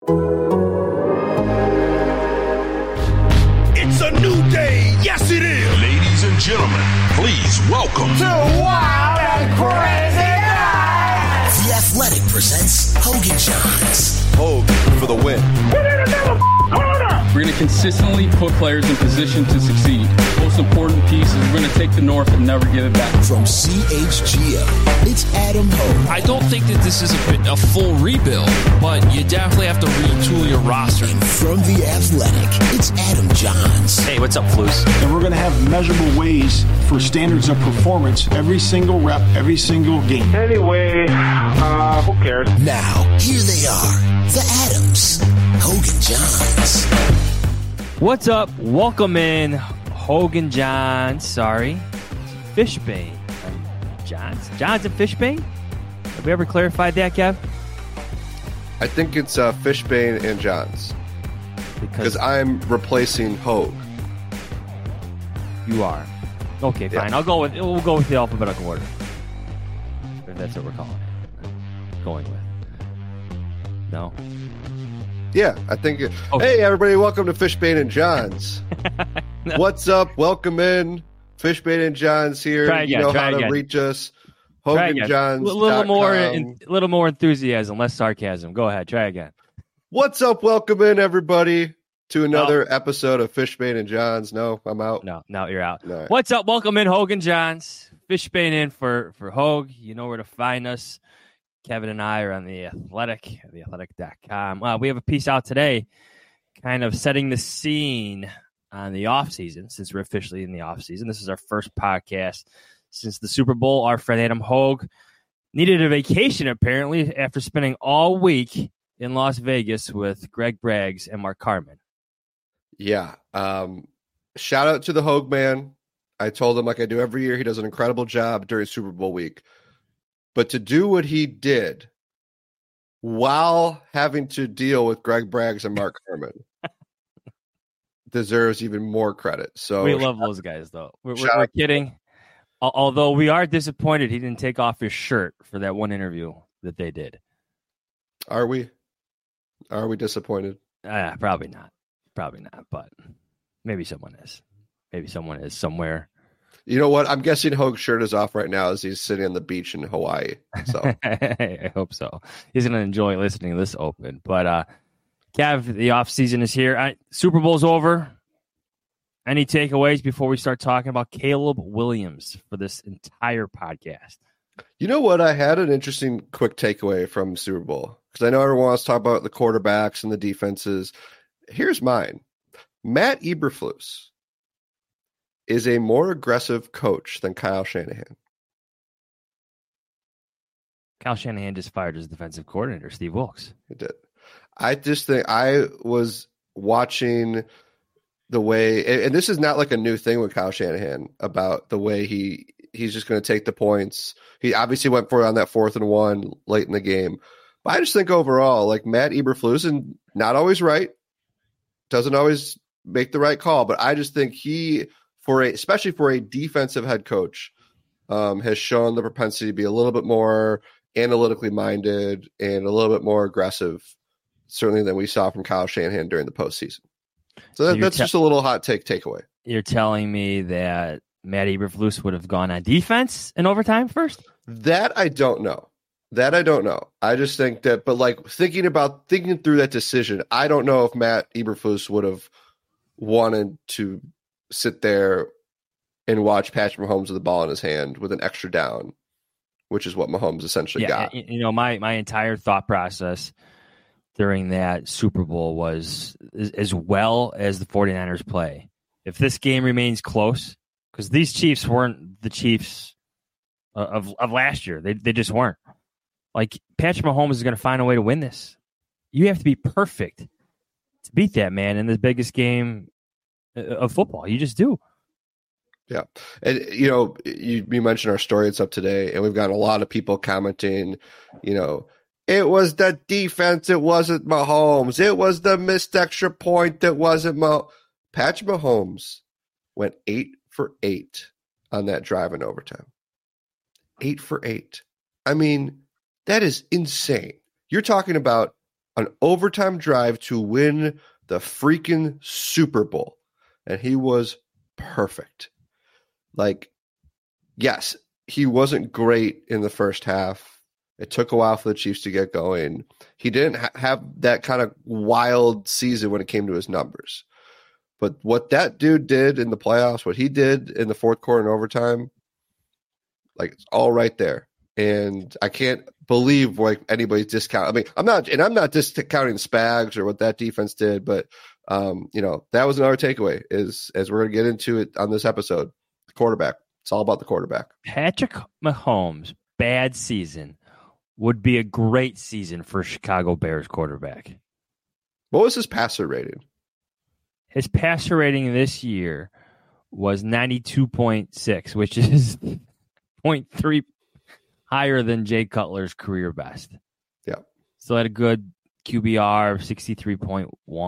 It's a new day. Yes, it is. Ladies and gentlemen, please welcome to Wild and Crazy Night. The Athletic presents Hogan Johns. Hogue for the win. Put in another corner. We're going to consistently put players in position to succeed. Most important piece is we're going to take the North and never give it back. From CHGO, it's Adam Hogue. I don't think that this is a full rebuild, but you definitely have to retool your roster. And from The Athletic, it's Adam Johns. Hey, what's up, Flus? And we're going to have measurable ways for standards of performance every single rep, every single game. Anyway, who cares? Now, here they are, the Adams, Hogan Johns. What's up? Welcome in, Hogan Johns. Sorry, Fishbane. Johns and Fishbane? Have we ever clarified that, Kev? I think it's Fishbane and Johns. Because I'm replacing Hogue. You are. Okay, fine. Yeah. We'll go with the alphabetical order. If that's what we're calling it. Going with. No? Yeah, I think. Okay. Hey, everybody, welcome to Fishbane and Johns. No. What's up? Welcome in. Fishbane and Johns here. Try again, you know try how to again. reach us. Try again. HoganJohns.com. A little more enthusiasm, less sarcasm. Go ahead. Try again. What's up? Welcome in, everybody, to another episode of Fishbane and Johns. No, I'm out. No, you're out. No. What's up? Welcome in, Hogan Johns. Fishbane in for Hogue. You know where to find us. Kevin and I are on The Athletic, theathletic.com. We have a piece out today kind of setting the scene on the offseason, since we're officially in the offseason. This is our first podcast since the Super Bowl. Our friend Adam Hogue needed a vacation, apparently, after spending all week in Las Vegas with Greg Braggs and Mark Carman. Yeah. Shout out to the Hogue man. I told him, like I do every year, he does an incredible job during Super Bowl week. But to do what he did while having to deal with Greg Braggs and Mark Carman deserves even more credit. So we love those guys, though. We're kidding. Although we are disappointed he didn't take off his shirt for that one interview that they did. Are we? Are we disappointed? Probably not. But maybe someone is. Maybe someone is somewhere. You know what? I'm guessing Hogue's shirt is off right now as he's sitting on the beach in Hawaii. So I hope so. He's going to enjoy listening to this open. But Kev, the off season is here. Super Bowl's over. Any takeaways before we start talking about Caleb Williams for this entire podcast? You know what? I had an interesting quick takeaway from Super Bowl because I know everyone wants to talk about the quarterbacks and the defenses. Here's mine. Matt Eberflus is a more aggressive coach than Kyle Shanahan. Kyle Shanahan just fired his defensive coordinator, Steve Wilkes. He did. I just think I was watching the way, and this is not like a new thing with Kyle Shanahan about the way he's just going to take the points. He obviously went for it on that 4th and 1 late in the game. But I just think overall, like Matt Eberflus, and not always right, doesn't always make the right call, but I just think he, especially for a defensive head coach, has shown the propensity to be a little bit more analytically minded and a little bit more aggressive, certainly than we saw from Kyle Shanahan during the postseason. So that's just a little hot takeaway. You're telling me that Matt Eberflus would have gone on defense in overtime first? That I don't know. I just think that, but like thinking through that decision, I don't know if Matt Eberflus would have wanted to sit there and watch Patrick Mahomes with the ball in his hand with an extra down, which is what Mahomes essentially got. You know, my entire thought process during that Super Bowl was as well as the 49ers play. If this game remains close, because these Chiefs weren't the Chiefs of last year. They just weren't. Like, Patrick Mahomes is going to find a way to win this. You have to be perfect to beat that man in the biggest game of football. You just do. Yeah. And, you know, you mentioned our story it's up today, and we've got a lot of people commenting, you know, it was the defense, it wasn't Mahomes. It was the missed extra point that wasn't Patrick Mahomes went 8 for 8 on that drive in overtime. 8 for 8. I mean, that is insane. You're talking about an overtime drive to win the freaking Super Bowl. And he was perfect. Like, yes, he wasn't great in the first half. It took a while for the Chiefs to get going. He didn't have that kind of wild season when it came to his numbers. But what that dude did in the playoffs, what he did in the fourth quarter and overtime, like, it's all right there. And I can't believe like anybody's discount. I mean, I'm not discounting Spags or what that defense did, but that was another takeaway is, as we're going to get into it on this episode, the quarterback. It's all about the quarterback. Patrick Mahomes' bad season would be a great season for Chicago Bears quarterback. What was his passer rating? His passer rating this year was 92.6, which is 0.3 higher than Jay Cutler's career best. Yeah. Still had a good QBR, 63.1,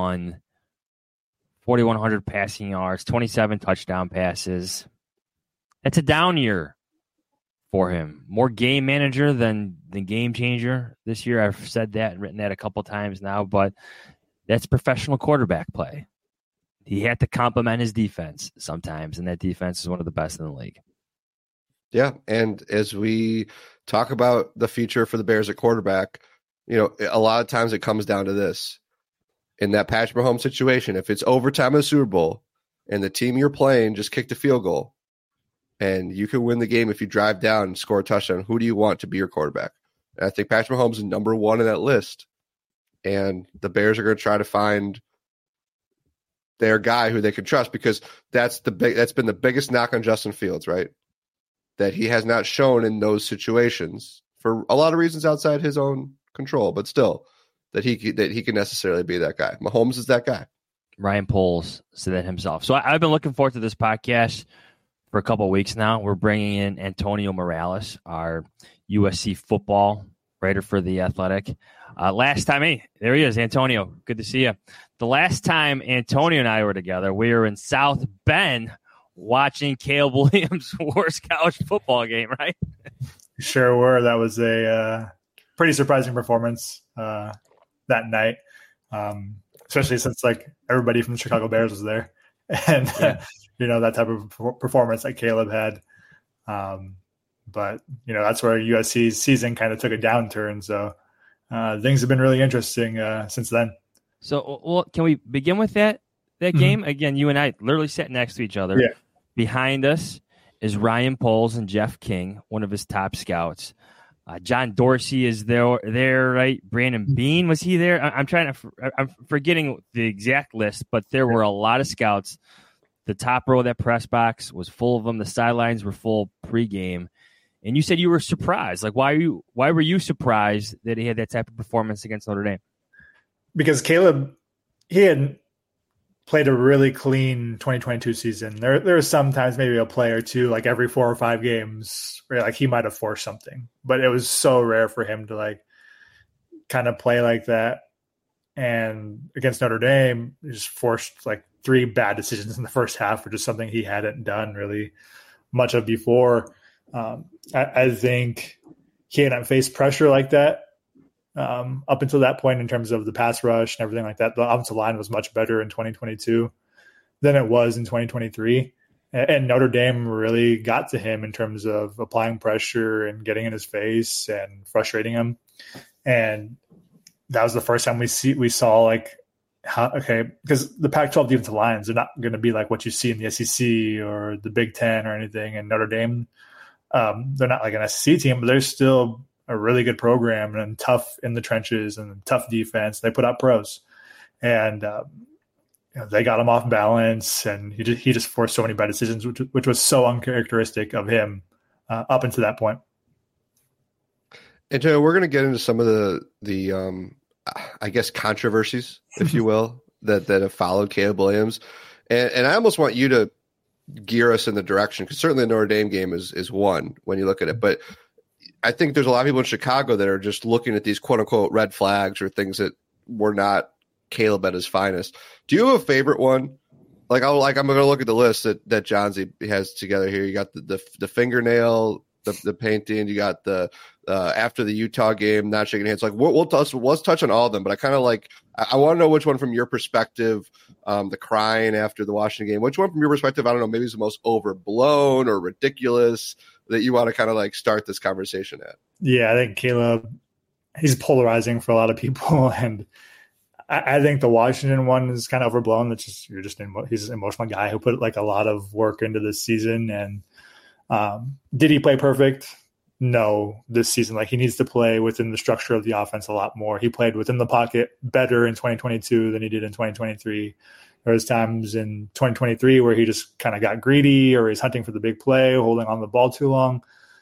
4,100 passing yards, 27 touchdown passes. That's a down year for him. More game manager than game changer this year. I've said that and written that a couple times now, but that's professional quarterback play. He had to complement his defense sometimes, and that defense is one of the best in the league. Yeah, and as we talk about the future for the Bears at quarterback, a lot of times it comes down to this. In that Patrick Mahomes situation, if it's overtime in the Super Bowl and the team you're playing just kicked a field goal and you can win the game if you drive down and score a touchdown, who do you want to be your quarterback? And I think Patrick Mahomes is number one in that list. And the Bears are going to try to find their guy who they can trust, because that's been the biggest knock on Justin Fields, right? That he has not shown in those situations for a lot of reasons outside his own control, but still that he can necessarily be that guy. Mahomes is that guy. Ryan Poles said that himself. So I've been looking forward to this podcast for a couple of weeks now. We're bringing in Antonio Morales, our USC football writer for The Athletic. Last time, hey, there he is, Antonio. Good to see you. The last time Antonio and I were together, we were in South Bend watching Caleb Williams' worst college football game, right? Sure were. That was a pretty surprising performance that night, especially since like everybody from the Chicago Bears was there, and that type of performance that Caleb had. But that's where USC's season kind of took a downturn. So things have been really interesting since then. So, well, can we begin with that game? Again, you and I literally sat next to each other. Yeah. Behind us is Ryan Poles and Jeff King, one of his top scouts. John Dorsey is there, right? Brandon Bean, was he there? I'm forgetting the exact list, but there were a lot of scouts. The top row of that press box was full of them. The sidelines were full pregame. And you said you were surprised. Like, why were you surprised that he had that type of performance against Notre Dame? Because Caleb, he had played a really clean 2022 season. There are sometimes maybe a play or two, like every 4 or 5 games, where like he might have forced something, but it was so rare for him to like kind of play like that. And against Notre Dame, he just forced like 3 bad decisions in the first half, which is something he hadn't done really much of before. I think he hadn't faced pressure like that up until that point in terms of the pass rush and everything like that. The offensive line was much better in 2022 than it was in 2023. And Notre Dame really got to him in terms of applying pressure and getting in his face and frustrating him. And that was the first time we saw like, because the Pac-12 defensive lines are not going to be like what you see in the SEC or the Big Ten or anything. And Notre Dame, they're not like an SEC team, but they're still a really good program and tough in the trenches and tough defense. They put out pros, and they got him off balance, and he just forced so many bad decisions, which was so uncharacteristic of him up until that point. And so we're going to get into some of the I guess controversies, if you will, that have followed Caleb Williams, and I almost want you to gear us in the direction, because certainly the Notre Dame game is one when you look at it, but I think there's a lot of people in Chicago that are just looking at these quote unquote red flags or things that were not Caleb at his finest. Do you have a favorite one? I'm going to look at the list that Johnsy has together here. You got the fingernail, the painting. You got the after the Utah game, not shaking hands. Like let's touch on all of them, but I kind of I want to know which one from your perspective, the crying after the Washington game, which one from your perspective, I don't know, maybe is the most overblown or ridiculous that you want to kind of start this conversation at. Yeah, I think Caleb, he's polarizing for a lot of people, and I think the Washington one is kind of overblown. That's just he's an emotional guy who put a lot of work into this season. And did he play perfect? No, this season. He needs to play within the structure of the offense a lot more. He played within the pocket better in 2022 than he did in 2023. There was times in 2023 where he just kind of got greedy, or he's hunting for the big play, holding on the ball too long.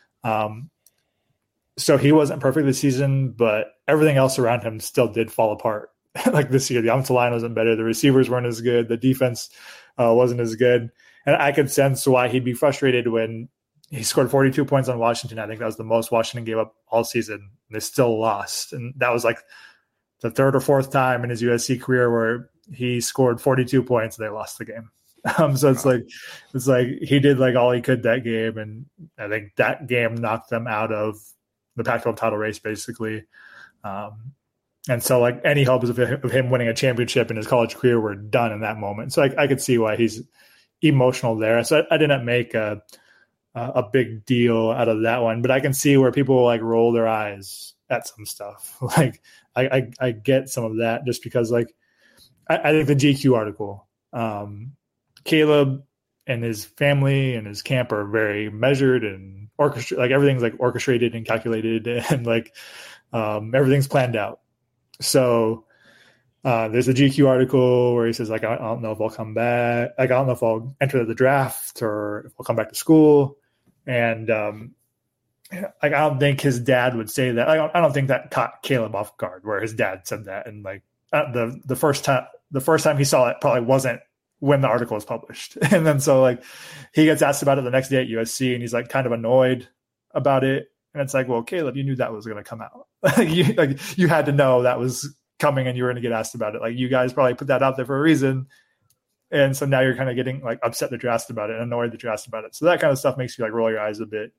So he wasn't perfect this season, but everything else around him still did fall apart. This year, the offensive line wasn't better. The receivers weren't as good. The defense wasn't as good. And I could sense why he'd be frustrated when he scored 42 points on Washington. I think that was the most Washington gave up all season. And they still lost. And that was the third or fourth time in his USC career where he scored 42 points and they lost the game. So it's he did all he could that game. And I think that game knocked them out of the Pac-12 title race, basically. And so any hopes of him winning a championship in his college career were done in that moment. So I could see why he's emotional there. So I didn't make a big deal out of that one, but I can see where people roll their eyes at some stuff. I get some of that just because I think the GQ article, Caleb and his family and his camp are very measured and orchestrated. Everything's orchestrated and calculated, and everything's planned out. So there's a GQ article where he says, I don't know if I'll come back. I don't know if I'll enter the draft or if I'll come back to school. And I don't think his dad would say that. I don't think that caught Caleb off guard where his dad said that. And the first time he saw it probably wasn't when the article was published. And then so he gets asked about it the next day at USC, and he's kind of annoyed about it. And it's well, Caleb, you knew that was going to come out. You had to know that was coming, and you were going to get asked about it. You guys probably put that out there for a reason. And so now you're kind of getting upset that you're asked about it and annoyed that you're asked about it. So that kind of stuff makes you roll your eyes a bit.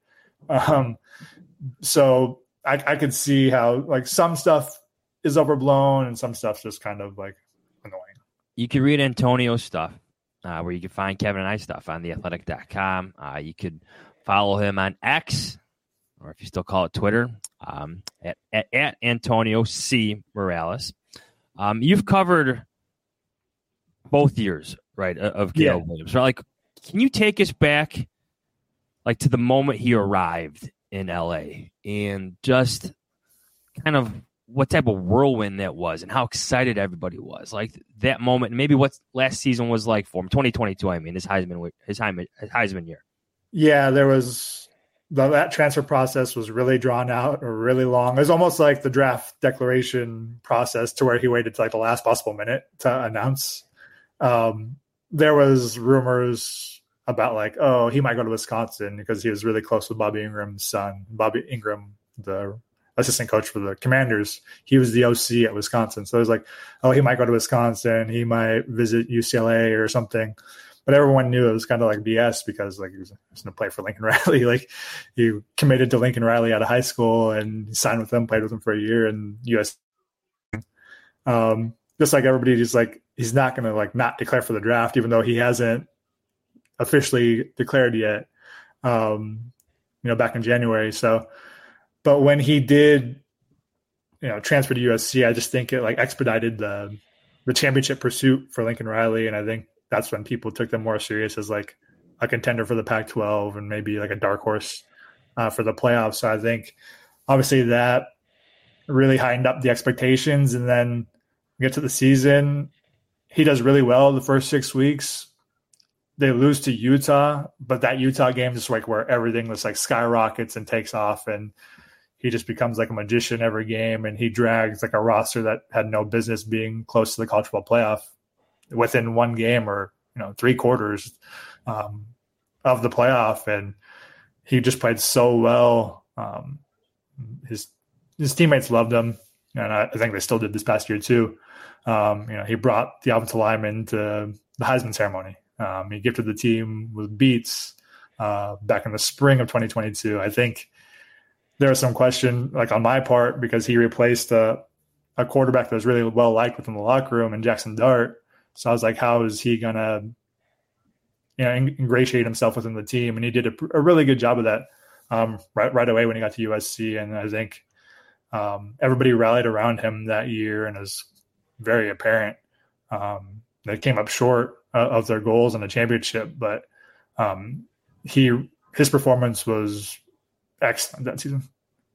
So I could see how some stuff is overblown and some stuff's just kind of annoying. You can read Antonio's stuff where you can find Kevin and I stuff on theathletic.com. You could follow him on X, or if you still call it Twitter, at Antonio C. Morales. You've covered both years, right, of Caleb Williams. Right? Can you take us back, to the moment he arrived in LA and just kind of what type of whirlwind that was and how excited everybody was? That moment, and maybe what last season was like for him, 2022, his Heisman year. Yeah, there was that transfer process was really drawn out or really long. It was almost like the draft declaration process to where he waited to the last possible minute to announce. There was rumors about he might go to Wisconsin because he was really close with Bobby Ingram's son. Bobby Ingram, the assistant coach for the Commanders, he was the OC at Wisconsin. So it was he might go to Wisconsin. He might visit UCLA or something. But everyone knew it was kind of BS because he was going to play for Lincoln Riley. He committed to Lincoln Riley out of high school and he signed with them, played with them for a year in US. Just everybody, just he's not going to not declare for the draft, even though he hasn't officially declared yet. Back in January. So, but when he did, transfer to USC, I just think it expedited the championship pursuit for Lincoln Riley, and I think that's when people took them more serious as a contender for the Pac-12 and maybe a dark horse for the playoffs. So I think obviously that really heightened up the expectations. And then we get to the season, he does really well the first 6 weeks. They lose to Utah, but that Utah game is where everything was skyrockets and takes off, and he just becomes a magician every game, and he drags a roster that had no business being close to the college football playoff within one game or 3 quarters of the playoff, and he just played so well. His teammates loved him, and I think they still did this past year too. He brought the offensive lineman to the Heisman ceremony. He gifted the team with beats back in the spring of 2022. I think there was some question, like on my part, because he replaced a quarterback that was really well liked within the locker room, and Jackson Dart. So I was like, how is he gonna, ingratiate himself within the team? And he did a really good job of that right away when he got to USC. And I think everybody rallied around him that year, and it was very apparent. They came up short of their goals in the championship, but his performance was excellent that season.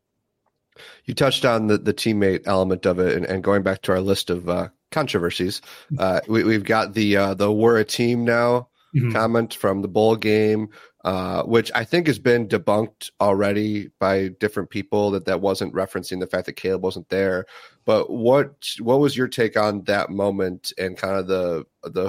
You touched on the teammate element of it, and going back to our list of controversies, we've got the "we're a team now" comment from the bowl game, which I think has been debunked already by different people that wasn't referencing the fact that Caleb wasn't there. But what was your take on that moment and kind of the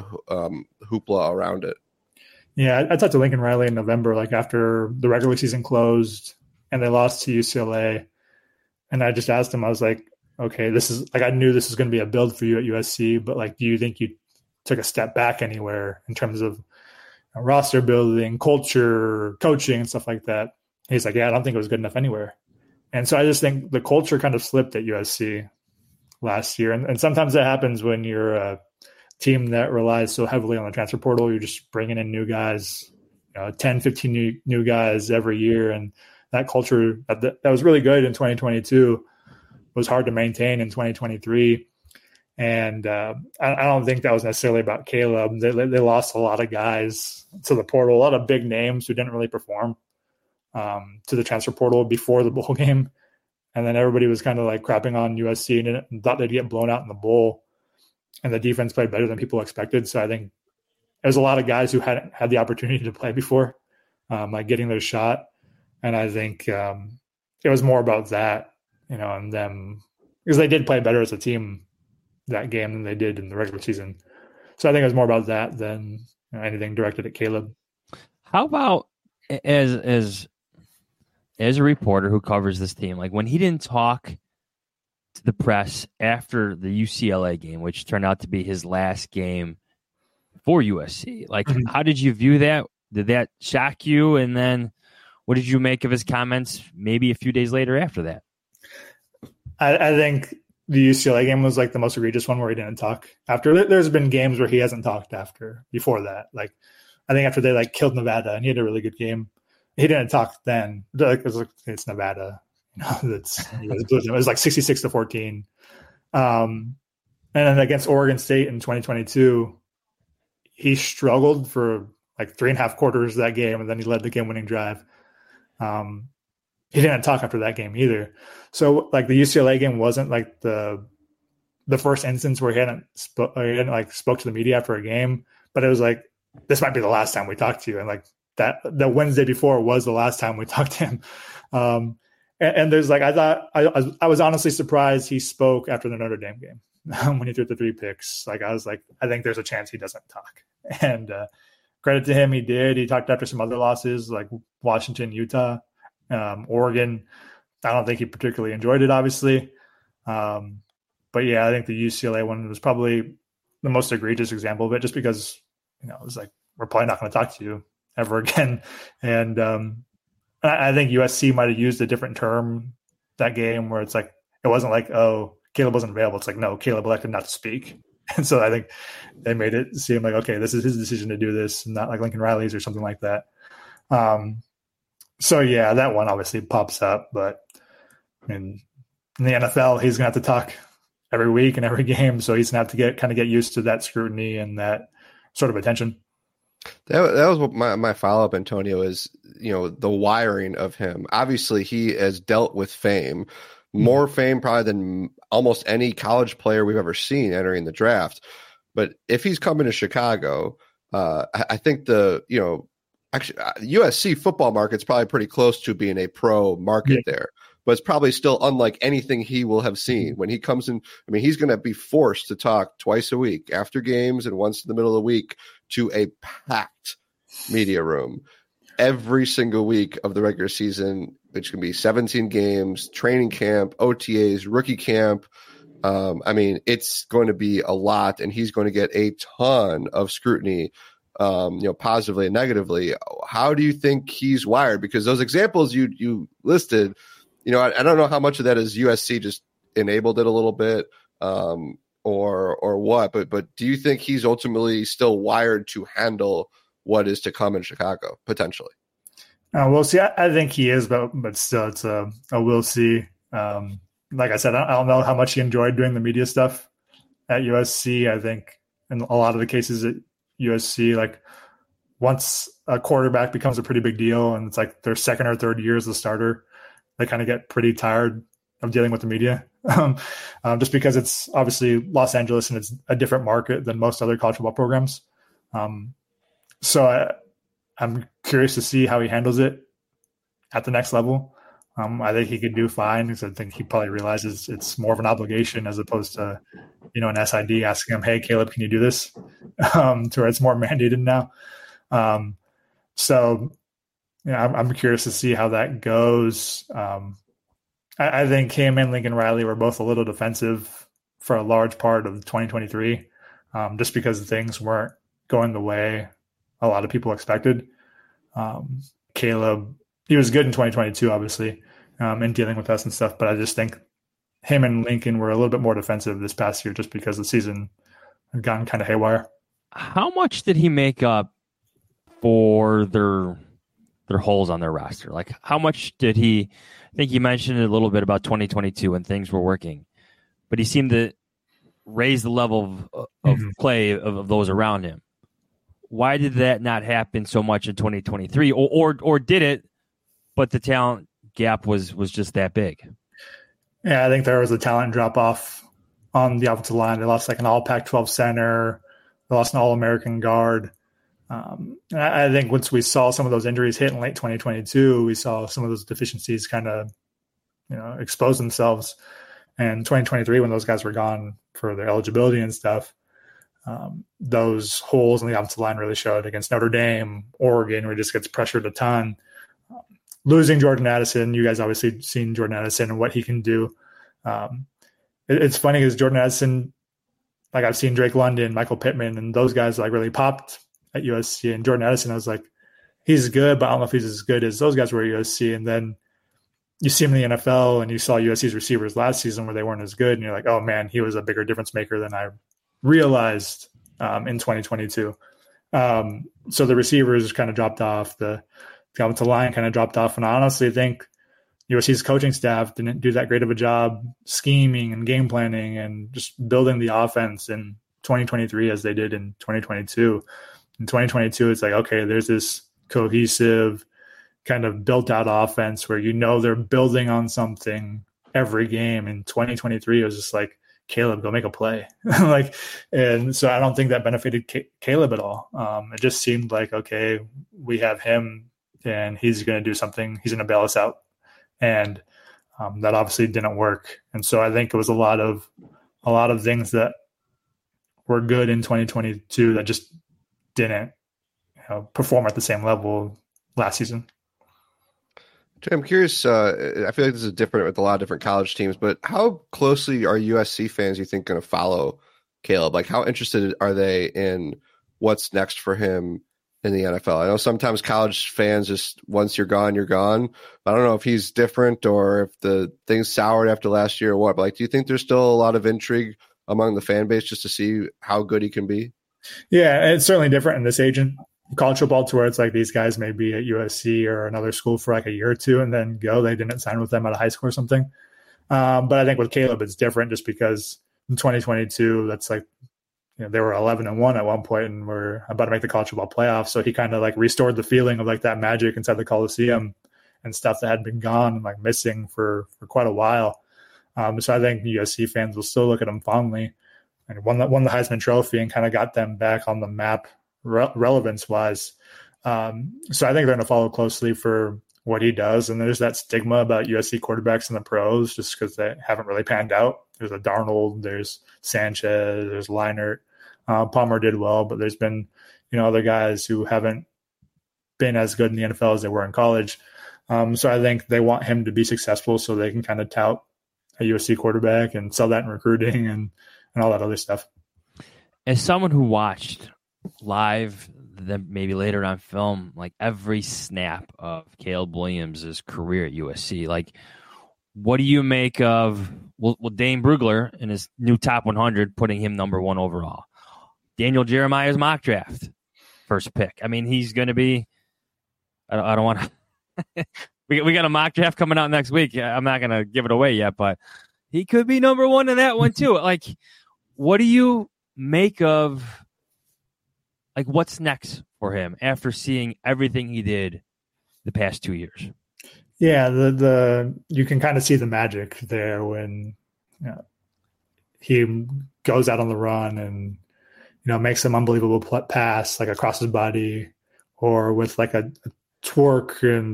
hoopla around it? Yeah, I talked to Lincoln Riley in November, like after the regular season closed and they lost to UCLA. And I just asked him, I was like, okay, this is like, I knew this was going to be a build for you at USC, but like, do you think you took a step back anywhere in terms of roster building, culture, coaching, and stuff like that? He's like, yeah, I don't think it was good enough anywhere. And so I just think the culture kind of slipped at USC last year. And sometimes that happens when you're a team that relies so heavily on the transfer portal. You're just bringing in new guys, 10, 15 new guys every year. And that culture that was really good in 2022 was hard to maintain in 2023. And I don't think that was necessarily about Caleb. They lost a lot of guys to the portal, a lot of big names who didn't really perform to the transfer portal before the bowl game. And then everybody was kind of like crapping on USC and thought they'd get blown out in the bowl. And the defense played better than people expected. So I think there's a lot of guys who hadn't had the opportunity to play before, like getting their shot. And I think it was more about that, and them, because they did play better as a team that game than they did in the regular season. So I think it was more about that than anything directed at Caleb. How about as a reporter who covers this team, like when he didn't talk to the press after the UCLA game, which turned out to be his last game for USC, like how did you view that? Did that shock you? And then what did you make of his comments maybe a few days later after that? I think the UCLA game was like the most egregious one where he didn't talk after. There's been games where he hasn't talked before that. Like I think after they like killed Nevada and he had a really good game, he didn't talk then. Like, it's Nevada. It was like 66-14. And then against Oregon State in 2022, he struggled for like 3.5 quarters of that game, and then he led the game-winning drive. He didn't talk after that game either. So like the UCLA game wasn't like the first instance where he hadn't spoke to the media after a game, but it was like, this might be the last time we talk to you. And like the Wednesday before was the last time we talked to him. And there's like, I was honestly surprised he spoke after the Notre Dame game when he threw the 3 picks. Like, I was like, I think there's a chance he doesn't talk. And credit to him, he did. He talked after some other losses like Washington, Utah, Oregon. I don't think he particularly enjoyed it, obviously. But yeah, I think the UCLA one was probably the most egregious example of it, just because, it was like, we're probably not going to talk to you ever again. And I think USC might have used a different term that game where it's like, it wasn't like, oh, Caleb wasn't available. It's like, no, Caleb elected not to speak. And so I think they made it seem like, okay, this is his decision to do this, not like Lincoln Riley's or something like that. So yeah, that one obviously pops up, but in the NFL, he's going to have to talk every week and every game. So he's going to have to get used to that scrutiny and that sort of attention. That was what my follow-up, Antonio, is, the wiring of him. Obviously, he has dealt with fame, more fame probably than almost any college player we've ever seen entering the draft. But if he's coming to Chicago, I think actually USC football market's probably pretty close to being a pro market there. But it's probably still unlike anything he will have seen when he comes in. I mean, he's going to be forced to talk twice a week after games and once in the middle of the week to a packed media room every single week of the regular season, which can be 17 games, training camp, OTAs, rookie camp. I mean, it's going to be a lot, and he's going to get a ton of scrutiny, positively and negatively. How do you think he's wired? Because those examples you listed, I don't know how much of that is USC just enabled it a little bit, or what, but do you think he's ultimately still wired to handle what is to come in Chicago potentially? We'll see. I think he is, but still, it's a we'll see. Like I said, I don't know how much he enjoyed doing the media stuff at USC. I think in a lot of the cases at USC, like once a quarterback becomes a pretty big deal and it's like their second or third year as the starter, they kind of get pretty tired of dealing with the media, just because it's obviously Los Angeles and it's a different market than most other college football programs. So I'm curious to see how he handles it at the next level. I think he could do fine because I think he probably realizes it's more of an obligation as opposed to, an SID asking him, "Hey, Caleb, can you do this?" To where it's more mandated now. So, I'm curious to see how that goes. I think him and Lincoln Riley were both a little defensive for a large part of 2023, just because things weren't going the way a lot of people expected. Caleb, he was good in 2022, obviously, in dealing with us and stuff, but I just think him and Lincoln were a little bit more defensive this past year just because the season had gotten kind of haywire. How much did he make up for their holes on their roster? Like, how much did he? I think you mentioned a little bit about 2022 when things were working, but he seemed to raise the level of play of those around him. Why did that not happen so much in 2023, or did it? But the talent gap was just that big. Yeah, I think there was a talent drop off on the offensive line. They lost like an all Pac-12 center. They lost an all-American guard. I think once we saw some of those injuries hit in late 2022, we saw some of those deficiencies kind of, expose themselves. And 2023, when those guys were gone for their eligibility and stuff, those holes in the offensive line really showed against Notre Dame, Oregon, where he just gets pressured a ton. Losing Jordan Addison, you guys obviously seen Jordan Addison and what he can do. It's funny because Jordan Addison, like I've seen Drake London, Michael Pittman, and those guys like really popped at USC. And Jordan Addison, I was like, he's good, but I don't know if he's as good as those guys were at USC. And then you see him in the NFL and you saw USC's receivers last season where they weren't as good. And you're like, oh man, he was a bigger difference maker than I realized in 2022. So the receivers kind of dropped off. The offensive line kind of dropped off. And I honestly think USC's coaching staff didn't do that great of a job scheming and game planning and just building the offense in 2023 as they did in 2022. In 2022, it's like, okay, there's this cohesive kind of built out offense where they're building on something every game. In 2023, it was just like, Caleb, go make a play. And so I don't think that benefited Caleb at all. It just seemed like, okay, we have him and he's going to do something. He's going to bail us out. And that obviously didn't work. And so I think it was a lot of things that were good in 2022 that just didn't perform at the same level last season. I'm curious. I feel like this is different with a lot of different college teams, but how closely are USC fans, you think, going to follow Caleb? Like, how interested are they in what's next for him in the NFL? I know sometimes college fans just, once you're gone, you're gone. I don't know if he's different or if the things soured after last year or what. But like, do you think there's still a lot of intrigue among the fan base just to see how good he can be? Yeah, it's certainly different in this age in college football to where it's like these guys may be at USC or another school for like a year or two and then go. They didn't sign with them out of high school or something. But I think with Caleb, it's different just because in 2022, that's like, they were 11-1 at one point and were about to make the college football playoffs. So he kind of like restored the feeling of like that magic inside the Coliseum and stuff that had been gone and like missing for quite a while. So I think USC fans will still look at him fondly, and won the Heisman Trophy and kind of got them back on the map relevance wise. So I think they're going to follow closely for what he does. And there's that stigma about USC quarterbacks in the pros just because they haven't really panned out. There's a Darnold, there's Sanchez, there's Leinart. Palmer did well, but there's been, other guys who haven't been as good in the NFL as they were in college. So I think they want him to be successful so they can kind of tout a USC quarterback and sell that in recruiting and all that other stuff. As someone who watched live, then maybe later on film, like every snap of Caleb Williams' career at USC, like what do you make of Dane Brugler in his new top 100, putting him number 1 overall? Daniel Jeremiah's mock draft first pick. I mean, he's going to be. I don't want to. we got a mock draft coming out next week. I'm not going to give it away yet, but he could be number 1 in that one too. Like, what do you make of? Like, what's next for him after seeing everything he did the past 2 years? Yeah, the you can kind of see the magic there when he goes out on the run and makes some unbelievable pass like across his body, or with like a torque and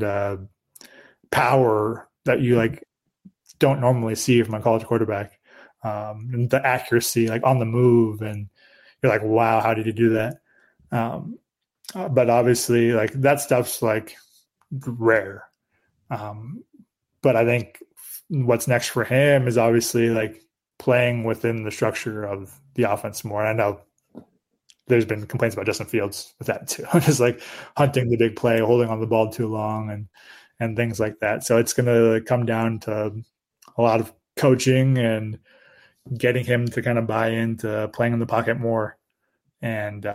power that you like don't normally see from a college quarterback, and the accuracy like on the move, and you're like, wow, how did he do that? But obviously, like that stuff's like rare. But I think what's next for him is obviously like playing within the structure of the offense more. And I know there's been complaints about Justin Fields with that too, just like hunting the big play, holding on the ball too long, and things like that. So it's going to come down to a lot of coaching and getting him to kind of buy into playing in the pocket more. And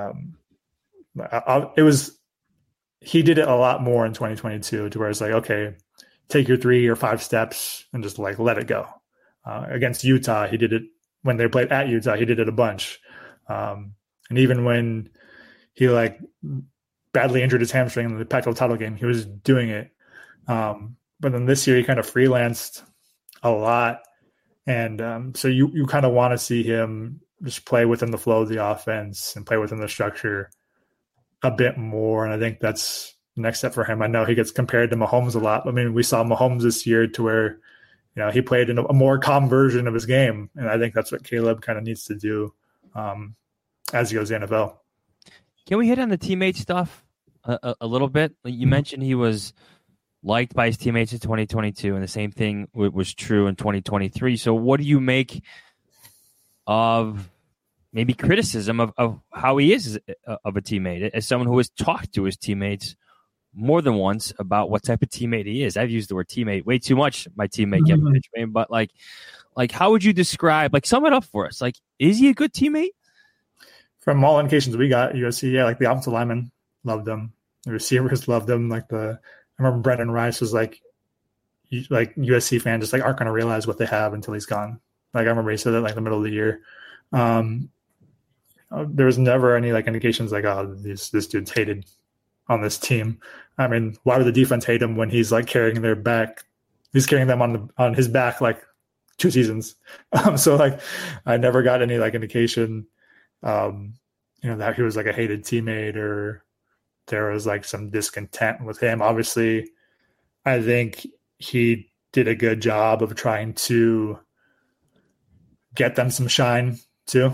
he did it a lot more in 2022, to where it's like, okay, take your 3 or 5 steps and just like let it go. Against Utah, he did it when they played at Utah. He did it a bunch, and even when he like badly injured his hamstring in the Pac-12 title game, he was doing it. But then this year, he kind of freelanced a lot, and so you kind of want to see him just play within the flow of the offense and play within the structure a bit more. And I think that's the next step for him. I know he gets compared to Mahomes a lot. I mean, we saw Mahomes this year to where, he played in a more calm version of his game. And I think that's what Caleb kind of needs to do as he goes to the NFL. Can we hit on the teammate stuff a little bit? You mentioned he was liked by his teammates in 2022, and the same thing was true in 2023. So what do you make of maybe criticism of how he is of a teammate, as someone who has talked to his teammates more than once about what type of teammate he is? I've used the word teammate way too much, my teammate Kevin Fishbain, but like how would you describe, like sum it up for us? Like, is he a good teammate? From all indications we got, USC, yeah, like the offensive linemen loved him. The receivers loved him. I remember Brendan Rice was like USC fans just like aren't going to realize what they have until he's gone. Like I remember he said that like in the middle of the year. There was never any like indications like, oh, this dude's hated on this team. I mean, why would the defense hate him when he's like carrying their back? He's carrying them on his back like 2 seasons. So like, I never got any like indication, that he was like a hated teammate or there was like some discontent with him. Obviously, I think he did a good job of trying to get them some shine too,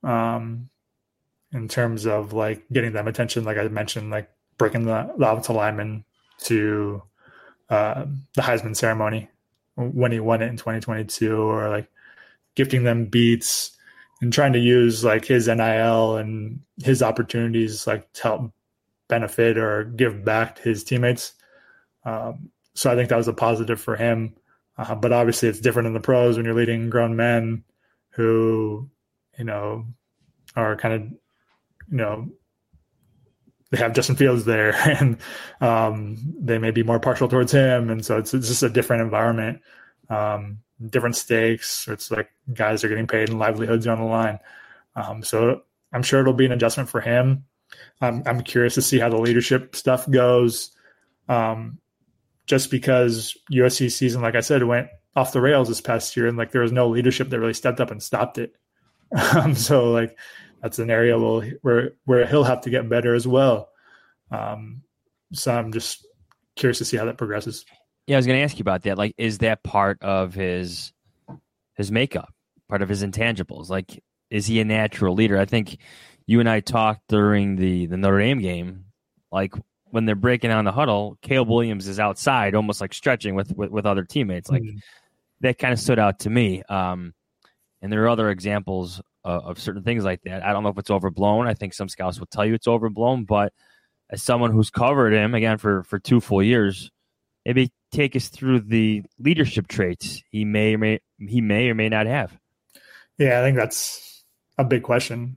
in terms of like getting them attention. Like I mentioned, like breaking the offensive lineman to the Heisman ceremony when he won it in 2022, or like gifting them beats and trying to use like his NIL and his opportunities like to help benefit or give back to his teammates. So I think that was a positive for him. But obviously it's different in the pros when you're leading grown men who, are kind of, they have Justin Fields there and they may be more partial towards him. And so it's just a different environment, different stakes. It's like guys are getting paid and livelihoods are on the line. So I'm sure it'll be an adjustment for him. I'm curious to see how the leadership stuff goes. Just because USC season, like I said, went off the rails this past year, and like there was no leadership that really stepped up and stopped it. So like that's an area where he'll have to get better as well. So I'm just curious to see how that progresses. Yeah, I was going to ask you about that. Like, is that part of his makeup, part of his intangibles? Like, is he a natural leader? I think you and I talked during the Notre Dame game, like when they're breaking down the huddle, Caleb Williams is outside, almost like stretching with other teammates. Like that kind of stood out to me. And there are other examples of certain things like that. I don't know if it's overblown. I think some scouts will tell you it's overblown, but as someone who's covered him again for 2 full years, maybe take us through the leadership traits he may or may not have. Yeah, I think that's a big question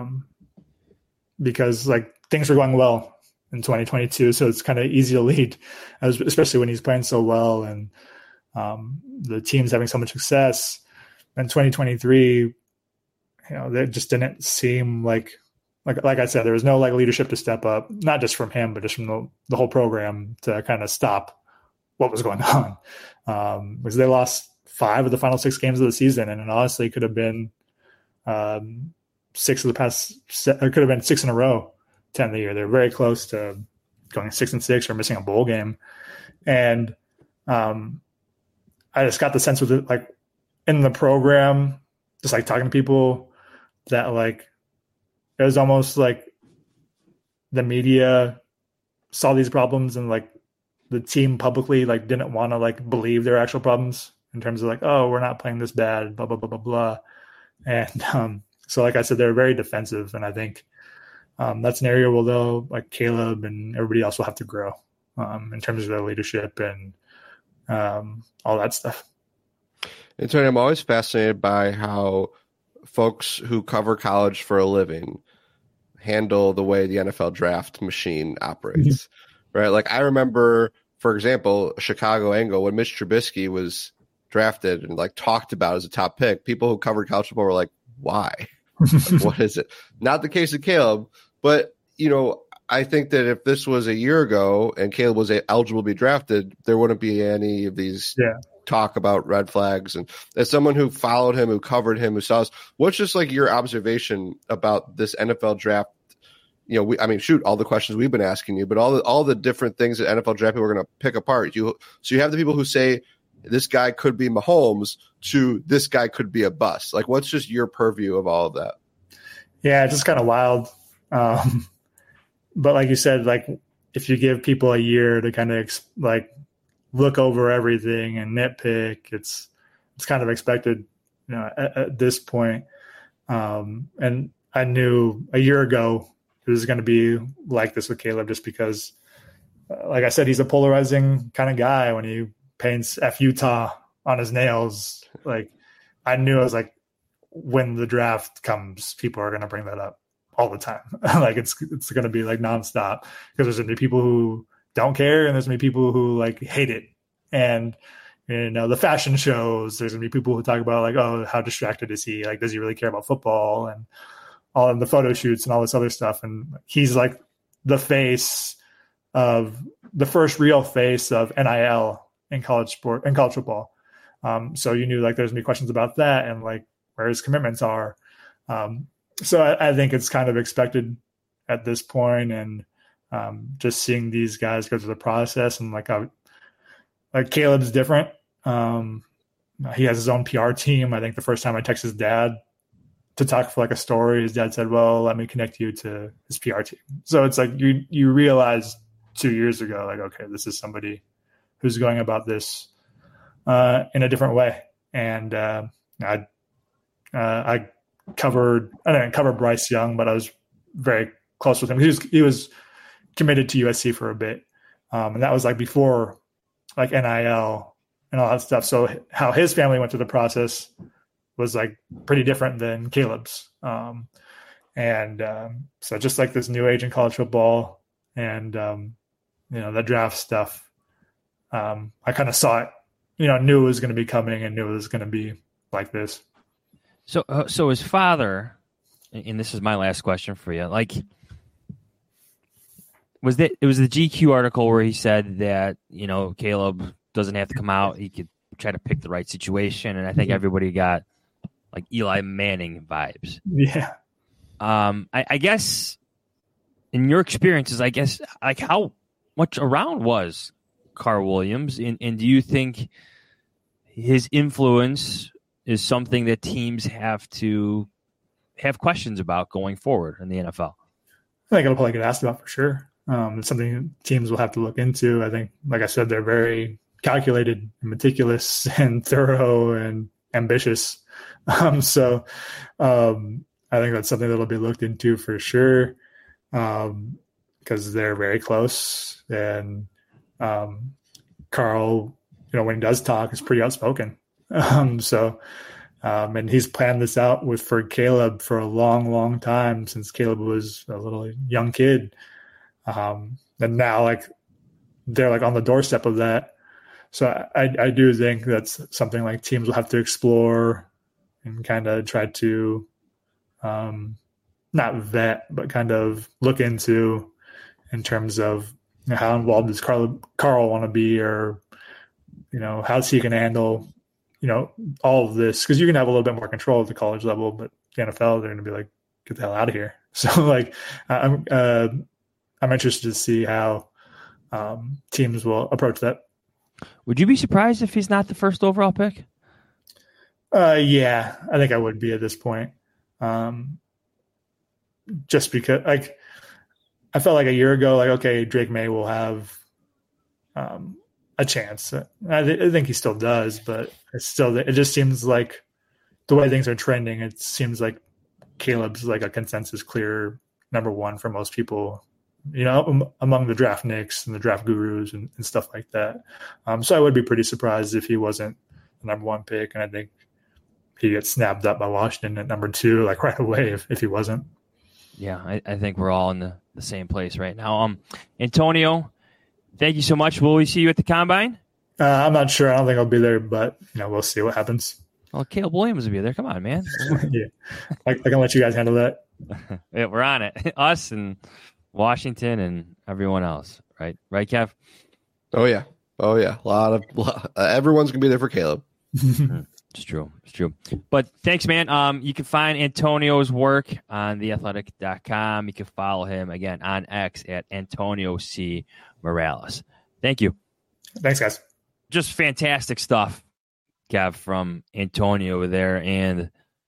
because like things were going well in 2022, so it's kind of easy to lead, especially when he's playing so well and the team's having so much success. In 2023, that just didn't seem like I said, there was no like leadership to step up, not just from him, but just from the whole program to kind of stop what was going on. Because they lost 5 of the final 6 games of the season, and it honestly could have been 6 of the past. It could have been 6 in a row to end the year. They're very close to going 6-6 or missing a bowl game, and I just got the sense with it, like in the program, just like talking to people, that like it was almost like the media saw these problems and like the team publicly like didn't want to like believe their actual problems in terms of like, oh, we're not playing this bad, blah blah blah blah blah. And so like I said, they're very defensive, and I think that's an area where they'll, like Caleb and everybody else, will have to grow in terms of their leadership and all that stuff. And Tony, I'm always fascinated by how folks who cover college for a living handle the way the NFL draft machine operates, right? Like I remember, for example, Chicago angle when Mitch Trubisky was drafted and like talked about as a top pick. People who covered college football were like, "Why? Like, what is it?" Not the case of Caleb, but I think that if this was a year ago and Caleb was eligible to be drafted, there wouldn't be any of these talk about red flags. And as someone who followed him, who covered him, who saw us, what's just like your observation about this NFL draft? All the questions we've been asking you, but all the different things that NFL draft people are going to pick apart. So you have the people who say this guy could be Mahomes to this guy could be a bust. Like, what's just your purview of all of that? Yeah, it's just kind of wild. But like you said, like if you give people a year to kind of look over everything and nitpick, it's kind of expected, at this point. And I knew a year ago it was going to be like this with Caleb, just because, like I said, he's a polarizing kind of guy. When he paints F Utah on his nails, like I knew, I was like, when the draft comes, people are going to bring that up all the time. Like it's going to be like nonstop, because there's going to be people who don't care, and there's going to be people who like hate it. And the fashion shows, there's going to be people who talk about like, oh, how distracted is he? Like, does he really care about football? And all of the photo shoots and all this other stuff. And he's like the first real face of NIL in college football. So you knew like there's going to be questions about that and like where his commitments are. So I think it's kind of expected at this point, and just seeing these guys go through the process, and like Caleb's different. He has his own PR team. I think the first time I texted his dad to talk for like a story, his dad said, "Well, let me connect you to his PR team." So it's like you realize 2 years ago, like, okay, this is somebody who's going about this in a different way. And I didn't cover Bryce Young, but I was very close with him. He was committed to USC for a bit, and that was like before like NIL and all that stuff. So how his family went through the process was like pretty different than Caleb's. So just like this new age in college football and, the draft stuff, I kind of saw it, knew it was going to be coming and knew it was going to be like this. So his father, and this is my last question for you, like, it was the GQ article where he said that, Caleb doesn't have to come out. He could try to pick the right situation. And I think everybody got like Eli Manning vibes. Yeah. I guess in your experiences, I guess, like how much around was Carl Williams? And do you think his influence is something that teams have to have questions about going forward in the NFL? I think it'll probably get asked about for sure. It's something teams will have to look into. I think, like I said, they're very calculated and meticulous and thorough and ambitious. So I think that's something that'll be looked into for sure, because they're very close. And Carl Carl, when he does talk, is pretty outspoken. And he's planned this out for Caleb for a long, long time, since Caleb was a little young kid. And now they're on the doorstep of that. So I do think that's something teams will have to explore and kind of try to not vet, but kind of look into in terms of how involved does Carl want to be, or how's he going to handle all of this, because you can have a little bit more control at the college level, but the NFL, they're going to be like, get the hell out of here. So I'm interested to see how teams will approach that. Would you be surprised if he's not the first overall pick? Yeah, I think I would be at this point. Just because I felt like a year ago, okay, Drake May will have a chance. I think he still does, but it just seems like the way things are trending, it seems like Caleb's a consensus clear number one for most people, among the draft nicks and the draft gurus and stuff like that. So I would be pretty surprised if he wasn't the number one pick, and I think he gets snapped up by Washington at number 2, right away if he wasn't. Yeah, I think we're all in the same place right now. Antonio, thank you so much. Will we see you at the Combine? I'm not sure. I don't think I'll be there, but we'll see what happens. Well, Caleb Williams will be there. Come on, man. Yeah, I can let you guys handle that. Yeah, we're on it. Us and Washington and everyone else, right? Right, Kev? Oh yeah. A lot of everyone's gonna be there for Caleb. It's true. But thanks, man. You can find Antonio's work on theathletic.com. You can follow him again on X at Antonio C. Morales. Thank you. Thanks, guys. Just fantastic stuff, Kev, from Antonio over there. And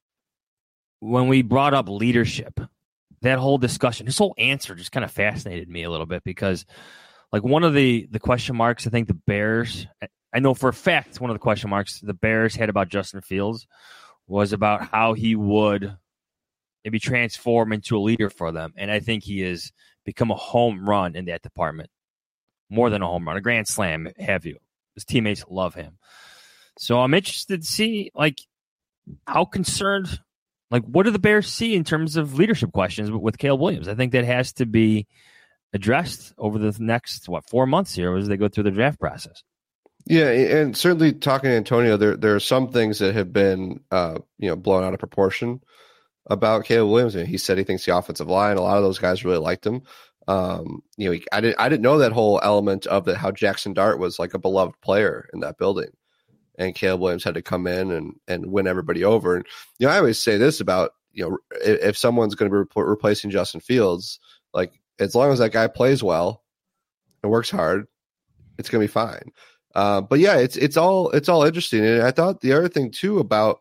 when we brought up leadership, that whole discussion, his whole answer just kind of fascinated me a little bit, because one of the question marks, I think the Bears, I know for a fact one of the question marks the Bears had about Justin Fields was about how he would maybe transform into a leader for them. And I think he has become a home run in that department. More than a home run, a grand slam, have you. His teammates love him. So I'm interested to see, how concerned, what do the Bears see in terms of leadership questions with Caleb Williams? I think that has to be addressed over the next, 4 months here as they go through the draft process. Yeah, and certainly talking to Antonio, there are some things that have been blown out of proportion about Caleb Williams. And he said he thinks the offensive line, a lot of those guys really liked him. I didn't know that whole element of how Jackson Dart was a beloved player in that building, and Caleb Williams had to come in and win everybody over. And I always say this about if someone's going to be replacing Justin Fields, as long as that guy plays well and works hard, it's going to be fine. But yeah, it's all interesting. And I thought the other thing too about,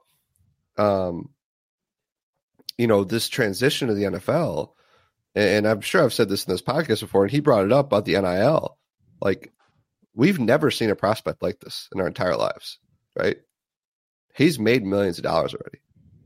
this transition to the NFL, and I'm sure I've said this in this podcast before, and he brought it up about the NIL. We've never seen a prospect like this in our entire lives, right? He's made millions of dollars already.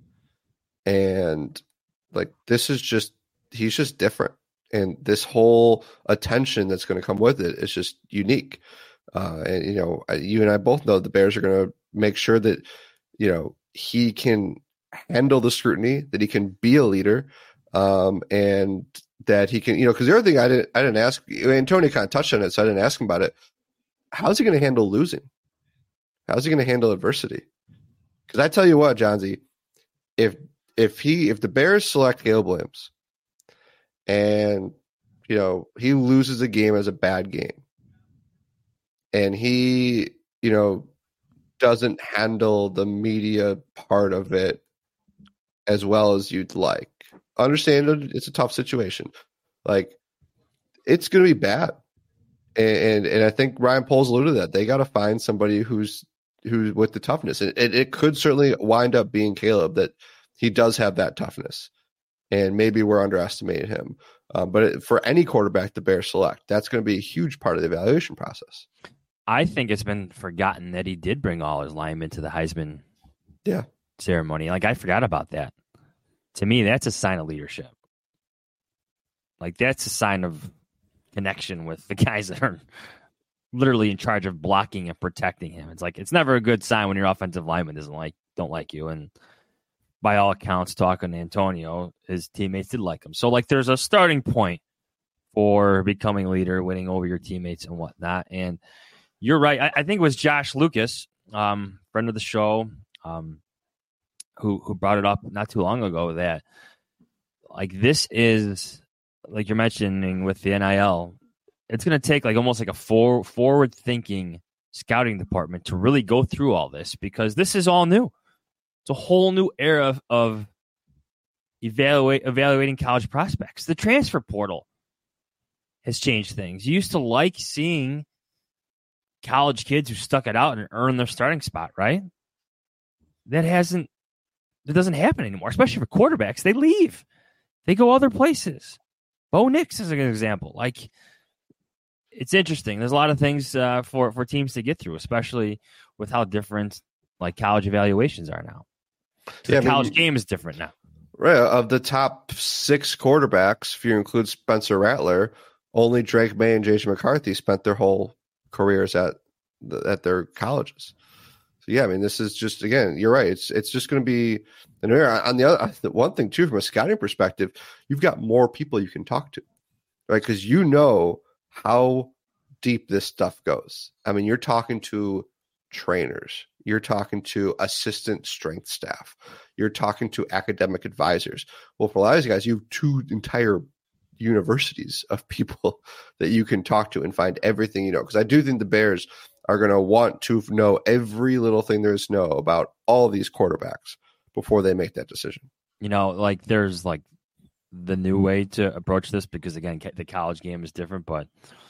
And he's just different. And this whole attention that's going to come with it is just unique. And you and I both know the Bears are going to make sure that he can handle the scrutiny, that he can be a leader, and that he can because the other thing I didn't ask, Antonio kind of touched on it, so I didn't ask him about it. How's he going to handle losing? How's he going to handle adversity? Because I tell you what, Johnsy, if the Bears select Caleb Williams and he loses a game as a bad game, and he, doesn't handle the media part of it as well as you'd like. Understand it's a tough situation. It's going to be bad. And I think Ryan Poles alluded to that. They got to find somebody who's with the toughness. And it could certainly wind up being Caleb, that he does have that toughness. And maybe we're underestimating him. But for any quarterback the Bears select, that's going to be a huge part of the evaluation process. I think it's been forgotten that he did bring all his linemen to the Heisman ceremony. I forgot about that. To me, that's a sign of leadership. That's a sign of connection with the guys that are literally in charge of blocking and protecting him. It's like it's never a good sign when your offensive lineman don't like you. And by all accounts, talking to Antonio, his teammates did like him. So like there's a starting point for becoming a leader, winning over your teammates and whatnot. And you're right. I think it was Josh Lucas, friend of the show, who brought it up not too long ago that like this is like you're mentioning with the NIL. It's going to take like almost like a forward-thinking scouting department to really go through all this because this is all new. It's a whole new era of evaluating college prospects. The transfer portal has changed things. You used to like seeing college kids who stuck it out and earned their starting spot, right? That doesn't happen anymore, especially for quarterbacks. They leave. They go other places. Bo Nix is a good example. Like, it's interesting. There's a lot of things for teams to get through, especially with how different like college evaluations are now. The college game is different now. Right. Of the top 6 quarterbacks, if you include Spencer Rattler, only Drake May and J.J. McCarthy spent their whole careers at their colleges. So yeah, I mean, this is just, again, you're right. It's just going to be an era. On the other, one thing too, from a scouting perspective, you've got more people you can talk to, right? Because you know how deep this stuff goes. I mean, you're talking to trainers, you're talking to assistant strength staff, you're talking to academic advisors. Well, for a lot of these guys, you have 2 entire universities of people that you can talk to and find everything you know. Because I do think the Bears are going to want to know every little thing there is to know about all these quarterbacks before they make that decision. You know, like there's like the new way to approach this because, again, the college game is different, but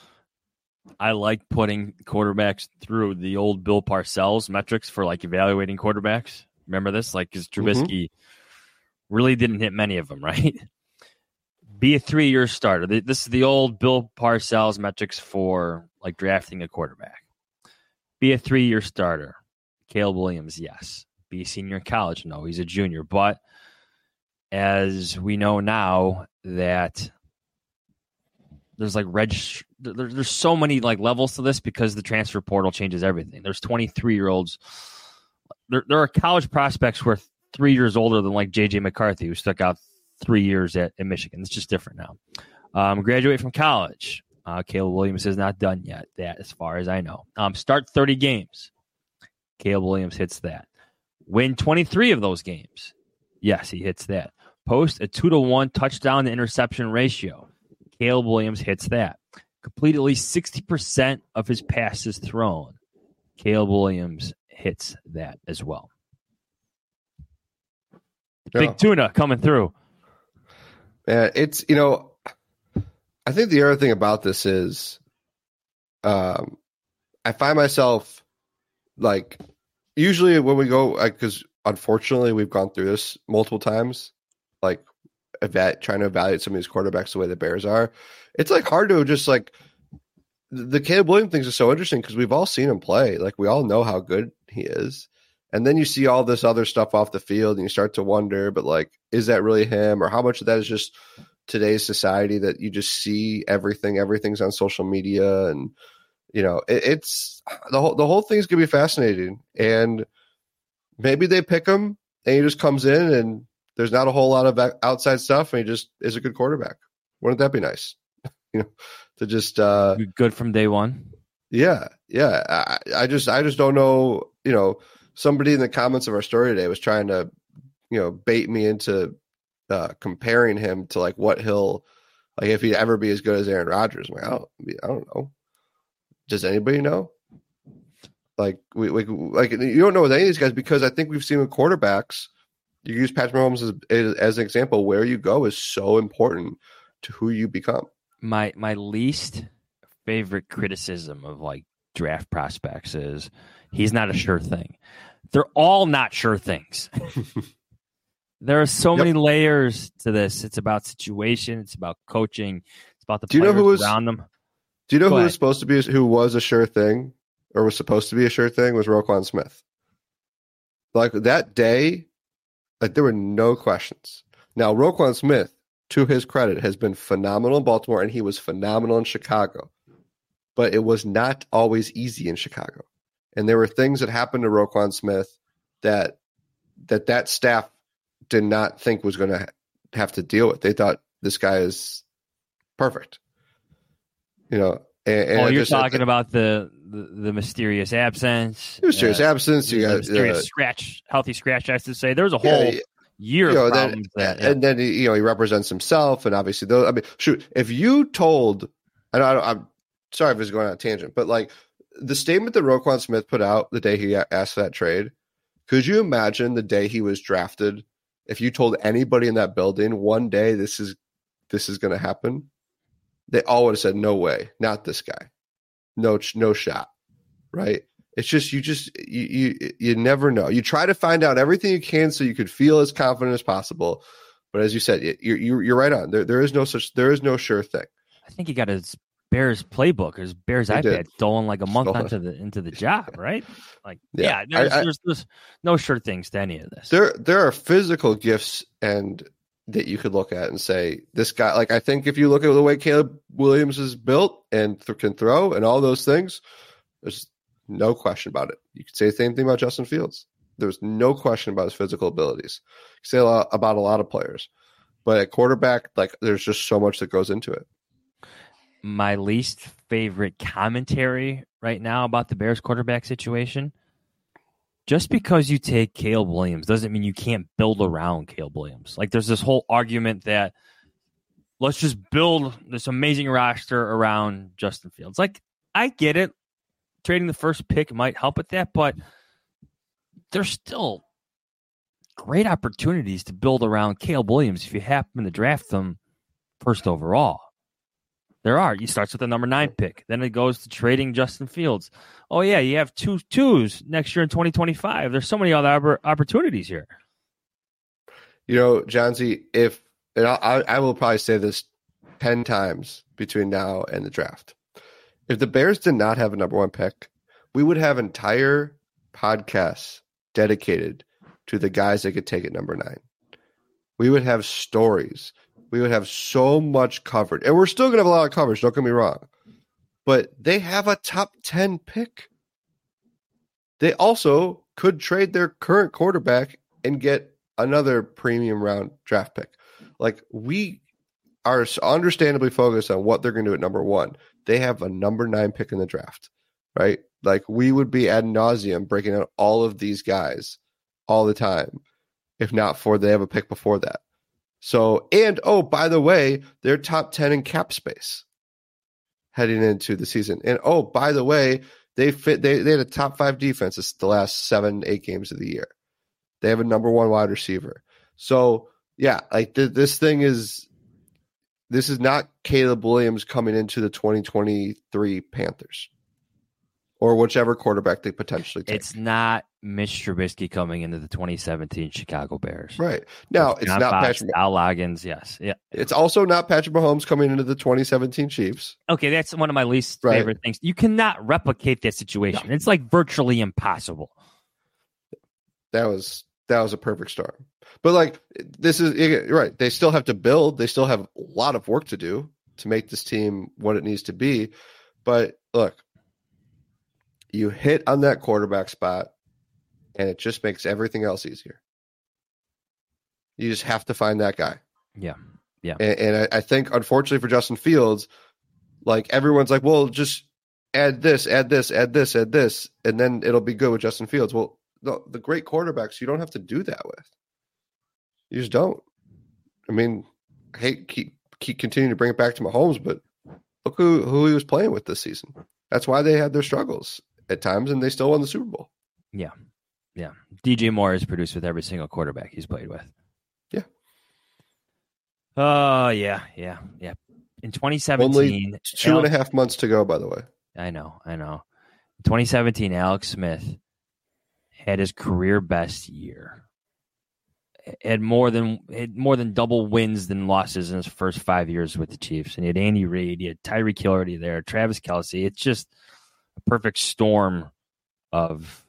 I like putting quarterbacks through the old Bill Parcells metrics for like evaluating quarterbacks. Remember this? Like, because Trubisky really didn't hit many of them, right? Be a 3-year starter. This is the old Bill Parcells metrics for like drafting a quarterback. Be a 3-year starter. Caleb Williams, yes. Be a senior in college? No, he's a junior. But as we know now that there's like there's so many like levels to this because the transfer portal changes everything. There's 23-year-olds. There are college prospects who are 3 years older than like J.J. McCarthy, who stuck out 3 years at Michigan. It's just different now. Graduate from college. Caleb Williams is not done yet, that as far as I know. Start 30 games. Caleb Williams hits that. Win 23 of those games. Yes, he hits that. Post a 2-to-1 touchdown to interception ratio. Caleb Williams hits that. Complete at least 60% of his passes thrown. Caleb Williams hits that as well. Big tuna coming through. It's, you know, I think the other thing about this is I find myself like usually when we go, because unfortunately we've gone through this multiple times, like trying to evaluate some of these quarterbacks the way the Bears are. It's like hard to just like the Caleb Williams things are so interesting because we've all seen him play. Like we all know how good he is. And then you see all this other stuff off the field and you start to wonder, but like, is that really him? Or how much of that is just today's society that you just see everything's on social media. And, you know, it's the whole thing's going to be fascinating. And maybe they pick him and he just comes in and there's not a whole lot of outside stuff. And he just is a good quarterback. Wouldn't that be nice? You know, to just good from day one. Yeah. I just don't know, you know. Somebody in the comments of our story today was trying to, you know, bait me into comparing him to like what he'll like if he'd ever be as good as Aaron Rodgers. I'm like, I don't know. Does anybody know? Like we like you don't know with any of these guys because I think we've seen with quarterbacks. You use Patrick Mahomes as an example. Where you go is so important to who you become. My least favorite criticism of like draft prospects is he's not a sure thing. They're all not sure things. There are so many layers to this. It's about situation. It's about coaching. It's about the players around them. Do you know who was supposed to be, who was a sure thing or was supposed to be a sure thing was Roquan Smith. Like that day, like there were no questions. Now, Roquan Smith, to his credit, has been phenomenal in Baltimore and he was phenomenal in Chicago. but it was not always easy in Chicago. And there were things that happened to Roquan Smith that staff did not think was going to have to deal with. They thought this guy is perfect. And you're talking about the mysterious absence. Mysterious absence. You got mysterious healthy scratch. I have to say, there was a whole year of problems. And then he represents himself, and obviously, if you told, I'm sorry if it's going on a tangent, but like the statement that Roquan Smith put out the day he asked for that trade, could you imagine the day he was drafted? If you told anybody in that building one day this is going to happen, they all would have said, "No way, not this guy, no shot." Right? It's just you never know. You try to find out everything you can so you could feel as confident as possible, but as you said, you're right on. There is no sure thing. I think he got his Bears playbook, his Bears iPad stolen like a month into the job, right? Like, there's no sure things to any of this. There are physical gifts and that you could look at and say, this guy, like, I think if you look at the way Caleb Williams is built and can throw and all those things, there's no question about it. You could say the same thing about Justin Fields. There's no question about his physical abilities. You say about a lot of players, but at quarterback, like, there's just so much that goes into it. My least favorite commentary right now about the Bears quarterback situation. Just because you take Caleb Williams doesn't mean you can't build around Caleb Williams. Like, there's this whole argument that let's just build this amazing roster around Justin Fields. Like, I get it. Trading the first pick might help with that, but there's still great opportunities to build around Caleb Williams if you happen to draft them first overall. There are. He starts with the number 9 pick. Then it goes to trading Justin Fields. Oh, yeah, you have 2 twos next year in 2025. There's so many other opportunities here. Johnsy, I will probably say this 10 times between now and the draft. If the Bears did not have a number 1 pick, we would have entire podcasts dedicated to the guys that could take it number 9. We would have stories. We would have so much covered. And we're still going to have a lot of coverage, don't get me wrong. But they have a top 10 pick. They also could trade their current quarterback and get another premium round draft pick. Like, we are understandably focused on what they're going to do at number 1. They have a number 9 pick in the draft, right? Like, we would be ad nauseum breaking out all of these guys all the time, if not for they have a pick before that. So, and by the way, they're top 10 in cap space heading into the season. And by the way, they had a top 5 defense the last 7-8 games of the year. They have a number 1 wide receiver. So, yeah, like this is not Caleb Williams coming into the 2023 Panthers or whichever quarterback they potentially take. It's not Mitch Trubisky coming into the 2017 Chicago Bears. Right. Now, it's not Patrick Al Loggins, yes. Yeah. It's also not Patrick Mahomes coming into the 2017 Chiefs. Okay, that's one of my least favorite things. You cannot replicate that situation. No. It's like virtually impossible. That was a perfect start. But like, this is right. They still have to build. They still have a lot of work to do to make this team what it needs to be. But look, you hit on that quarterback spot, and it just makes everything else easier. You just have to find that guy. Yeah. Yeah. And I think, unfortunately for Justin Fields, like, everyone's like, well, just add this, and then it'll be good with Justin Fields. Well, the great quarterbacks, you don't have to do that with. You just don't. I mean, I hate keep continuing to bring it back to Mahomes, but look who he was playing with this season. That's why they had their struggles at times, and they still won the Super Bowl. Yeah. Yeah. DJ Moore is produced with every single quarterback he's played with. Yeah. Oh, yeah. In 2017... Only 2.5 months to go, by the way. I know. In 2017, Alex Smith had his career best year. Had more than double wins than losses in his first 5 years with the Chiefs. And he had Andy Reid, he had Tyreek Hill already there, Travis Kelce. It's just a perfect storm of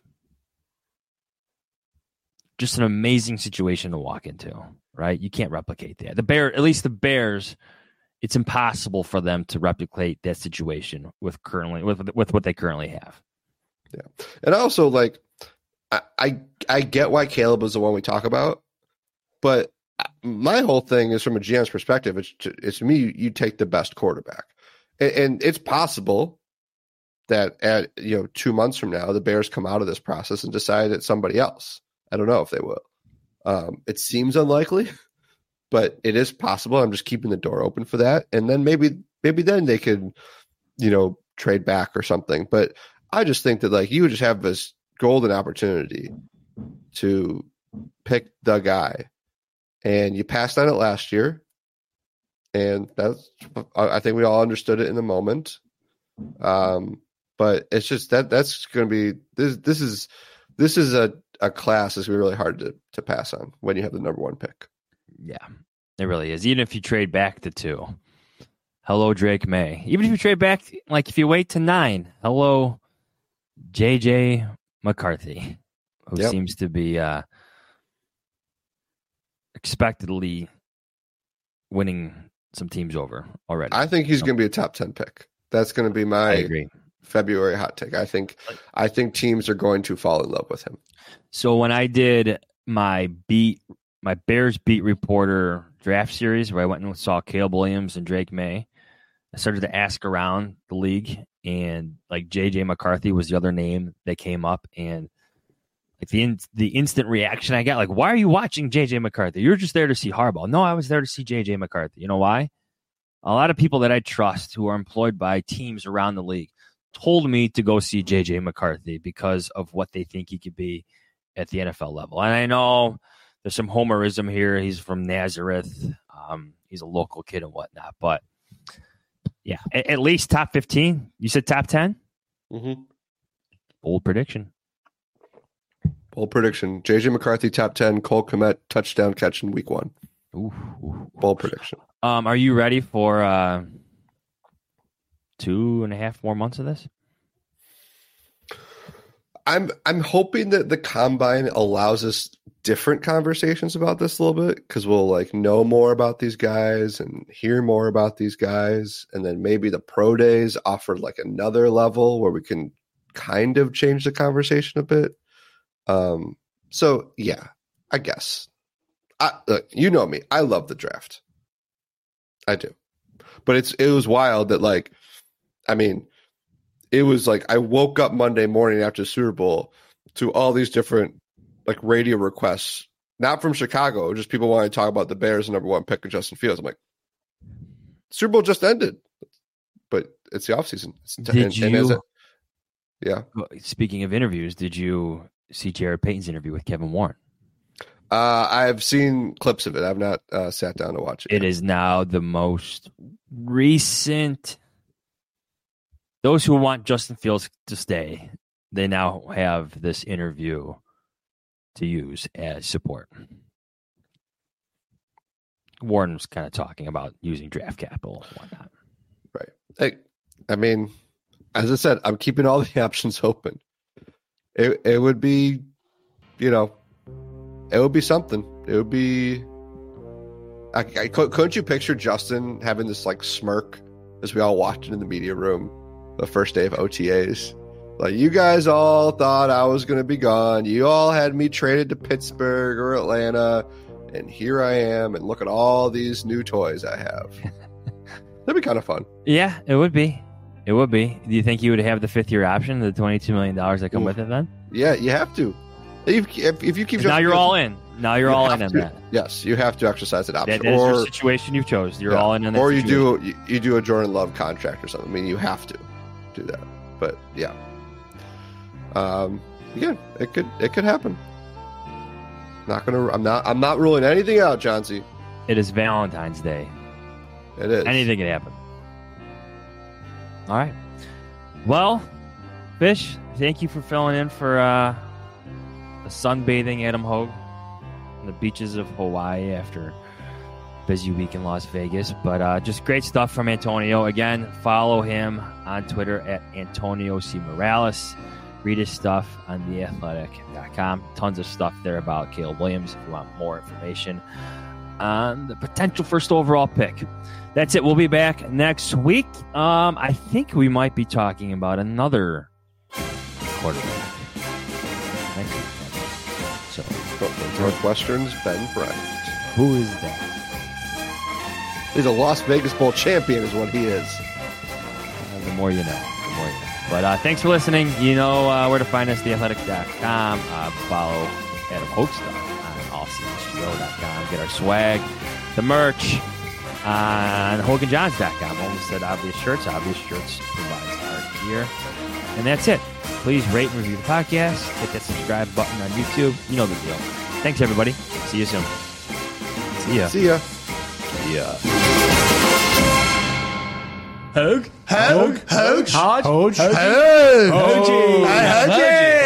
just an amazing situation to walk into, right? You can't replicate that. At least the Bears it's impossible for them to replicate that situation with what they currently have. Yeah. And also, like, I get why Caleb is the one we talk about, but my whole thing is from a GM's perspective. It's me. You take the best quarterback, and it's possible that at 2 months from now, the Bears come out of this process and decide it's somebody else. I don't know if they will. It seems unlikely, but it is possible. I'm just keeping the door open for that, and then maybe then they could, trade back or something. But I just think that, like, you would just have this golden opportunity to pick the guy, and you passed on it last year, and I think we all understood it in the moment. But it's just that's going to be this is a class that's really hard to pass on when you have the number one pick. Yeah, it really is. Even if you trade back to 2, hello Drake May. Even if you trade back, like if you wait to 9, hello JJ McCarthy, who seems to be expectedly winning some teams over already. I think he's going to be a top 10 pick. That's going to be my February hot take. I think teams are going to fall in love with him. So when I did my Bears beat reporter draft series, where I went and saw Caleb Williams and Drake May, I started to ask around the league, and like JJ McCarthy was the other name that came up, and like the instant reaction I got, like, why are you watching JJ McCarthy? You're just there to see Harbaugh. No, I was there to see JJ McCarthy. You know why? A lot of people that I trust who are employed by teams around the league told me to go see JJ McCarthy because of what they think he could be at the NFL level. And I know there's some homerism here. He's from Nazareth. He's a local kid and whatnot. But, yeah, at least top 15. You said top 10? Mm-hmm. Bold prediction. JJ McCarthy, top 10. Cole Kmet, touchdown catch in week 1. Bold prediction. Are you ready for 2.5 more months of this? I'm hoping that the combine allows us different conversations about this a little bit, because we'll like know more about these guys and hear more about these guys, and then maybe the pro days offer like another level where we can kind of change the conversation a bit. So yeah, I guess. Look, you know me. I love the draft. I do. But it was wild that, like, I mean, it was like I woke up Monday morning after the Super Bowl to all these different like radio requests, not from Chicago, just people wanting to talk about the Bears' number 1 pick of Justin Fields. I'm like, Super Bowl just ended, but it's the offseason. Yeah. Speaking of interviews, did you see Jared Payton's interview with Kevin Warren? I've seen clips of it. I've not sat down to watch it. It is now the most recent. Those who want Justin Fields to stay, they now have this interview to use as support. Warren was kind of talking about using draft capital and whatnot. Right. Hey, I mean, as I said, I'm keeping all the options open. It would be, it would be something. It would be. Couldn't you picture Justin having this like smirk as we all watched it in the media room the first day of OTAs? Like, you guys all thought I was going to be gone. You all had me traded to Pittsburgh or Atlanta, and here I am, and look at all these new toys I have. That'd be kind of fun. Yeah, it would be. It would be. Do you think you would have the 5th-year option, the $22 million that come with it then? Yeah, you have to. If you keep now you're all in. Now you're all in on that. Yes, you have to exercise that option. That is your situation you chose. You're all in on that. Or you do a Jordan Love contract or something. I mean, you have to do that. But yeah, yeah, it could happen. I'm not ruling anything out, Johnsy. It is Valentine's Day. It is. Anything can happen. All right. Well, Fish, thank you for filling in for a sunbathing Adam Hogue on the beaches of Hawaii after a busy week in Las Vegas. But just great stuff from Antonio. Again, follow him on Twitter at Antonio C. Morales. Read his stuff on theathletic.com. Tons of stuff there about Caleb Williams if you want more information on the potential first overall pick. That's it. We'll be back next week. I think we might be talking about another quarterback next week. So, Northwestern's Ben Bryant. Who is that? He's a Las Vegas Bowl champion is what he is. The more you know. But thanks for listening. You know where to find us, theathletic.com. Follow Adam Hochstuck on allcsgo.com. Get our swag, the merch on hoganjohns.com. Almost said Obvious Shirts. Obvious Shirts provides our gear. And that's it. Please rate and review the podcast. Hit that subscribe button on YouTube. You know the deal. Thanks, everybody. See you soon. See ya. See ya. Yeah. Hoge. Hodge. Hoge. Hoge. Hoge.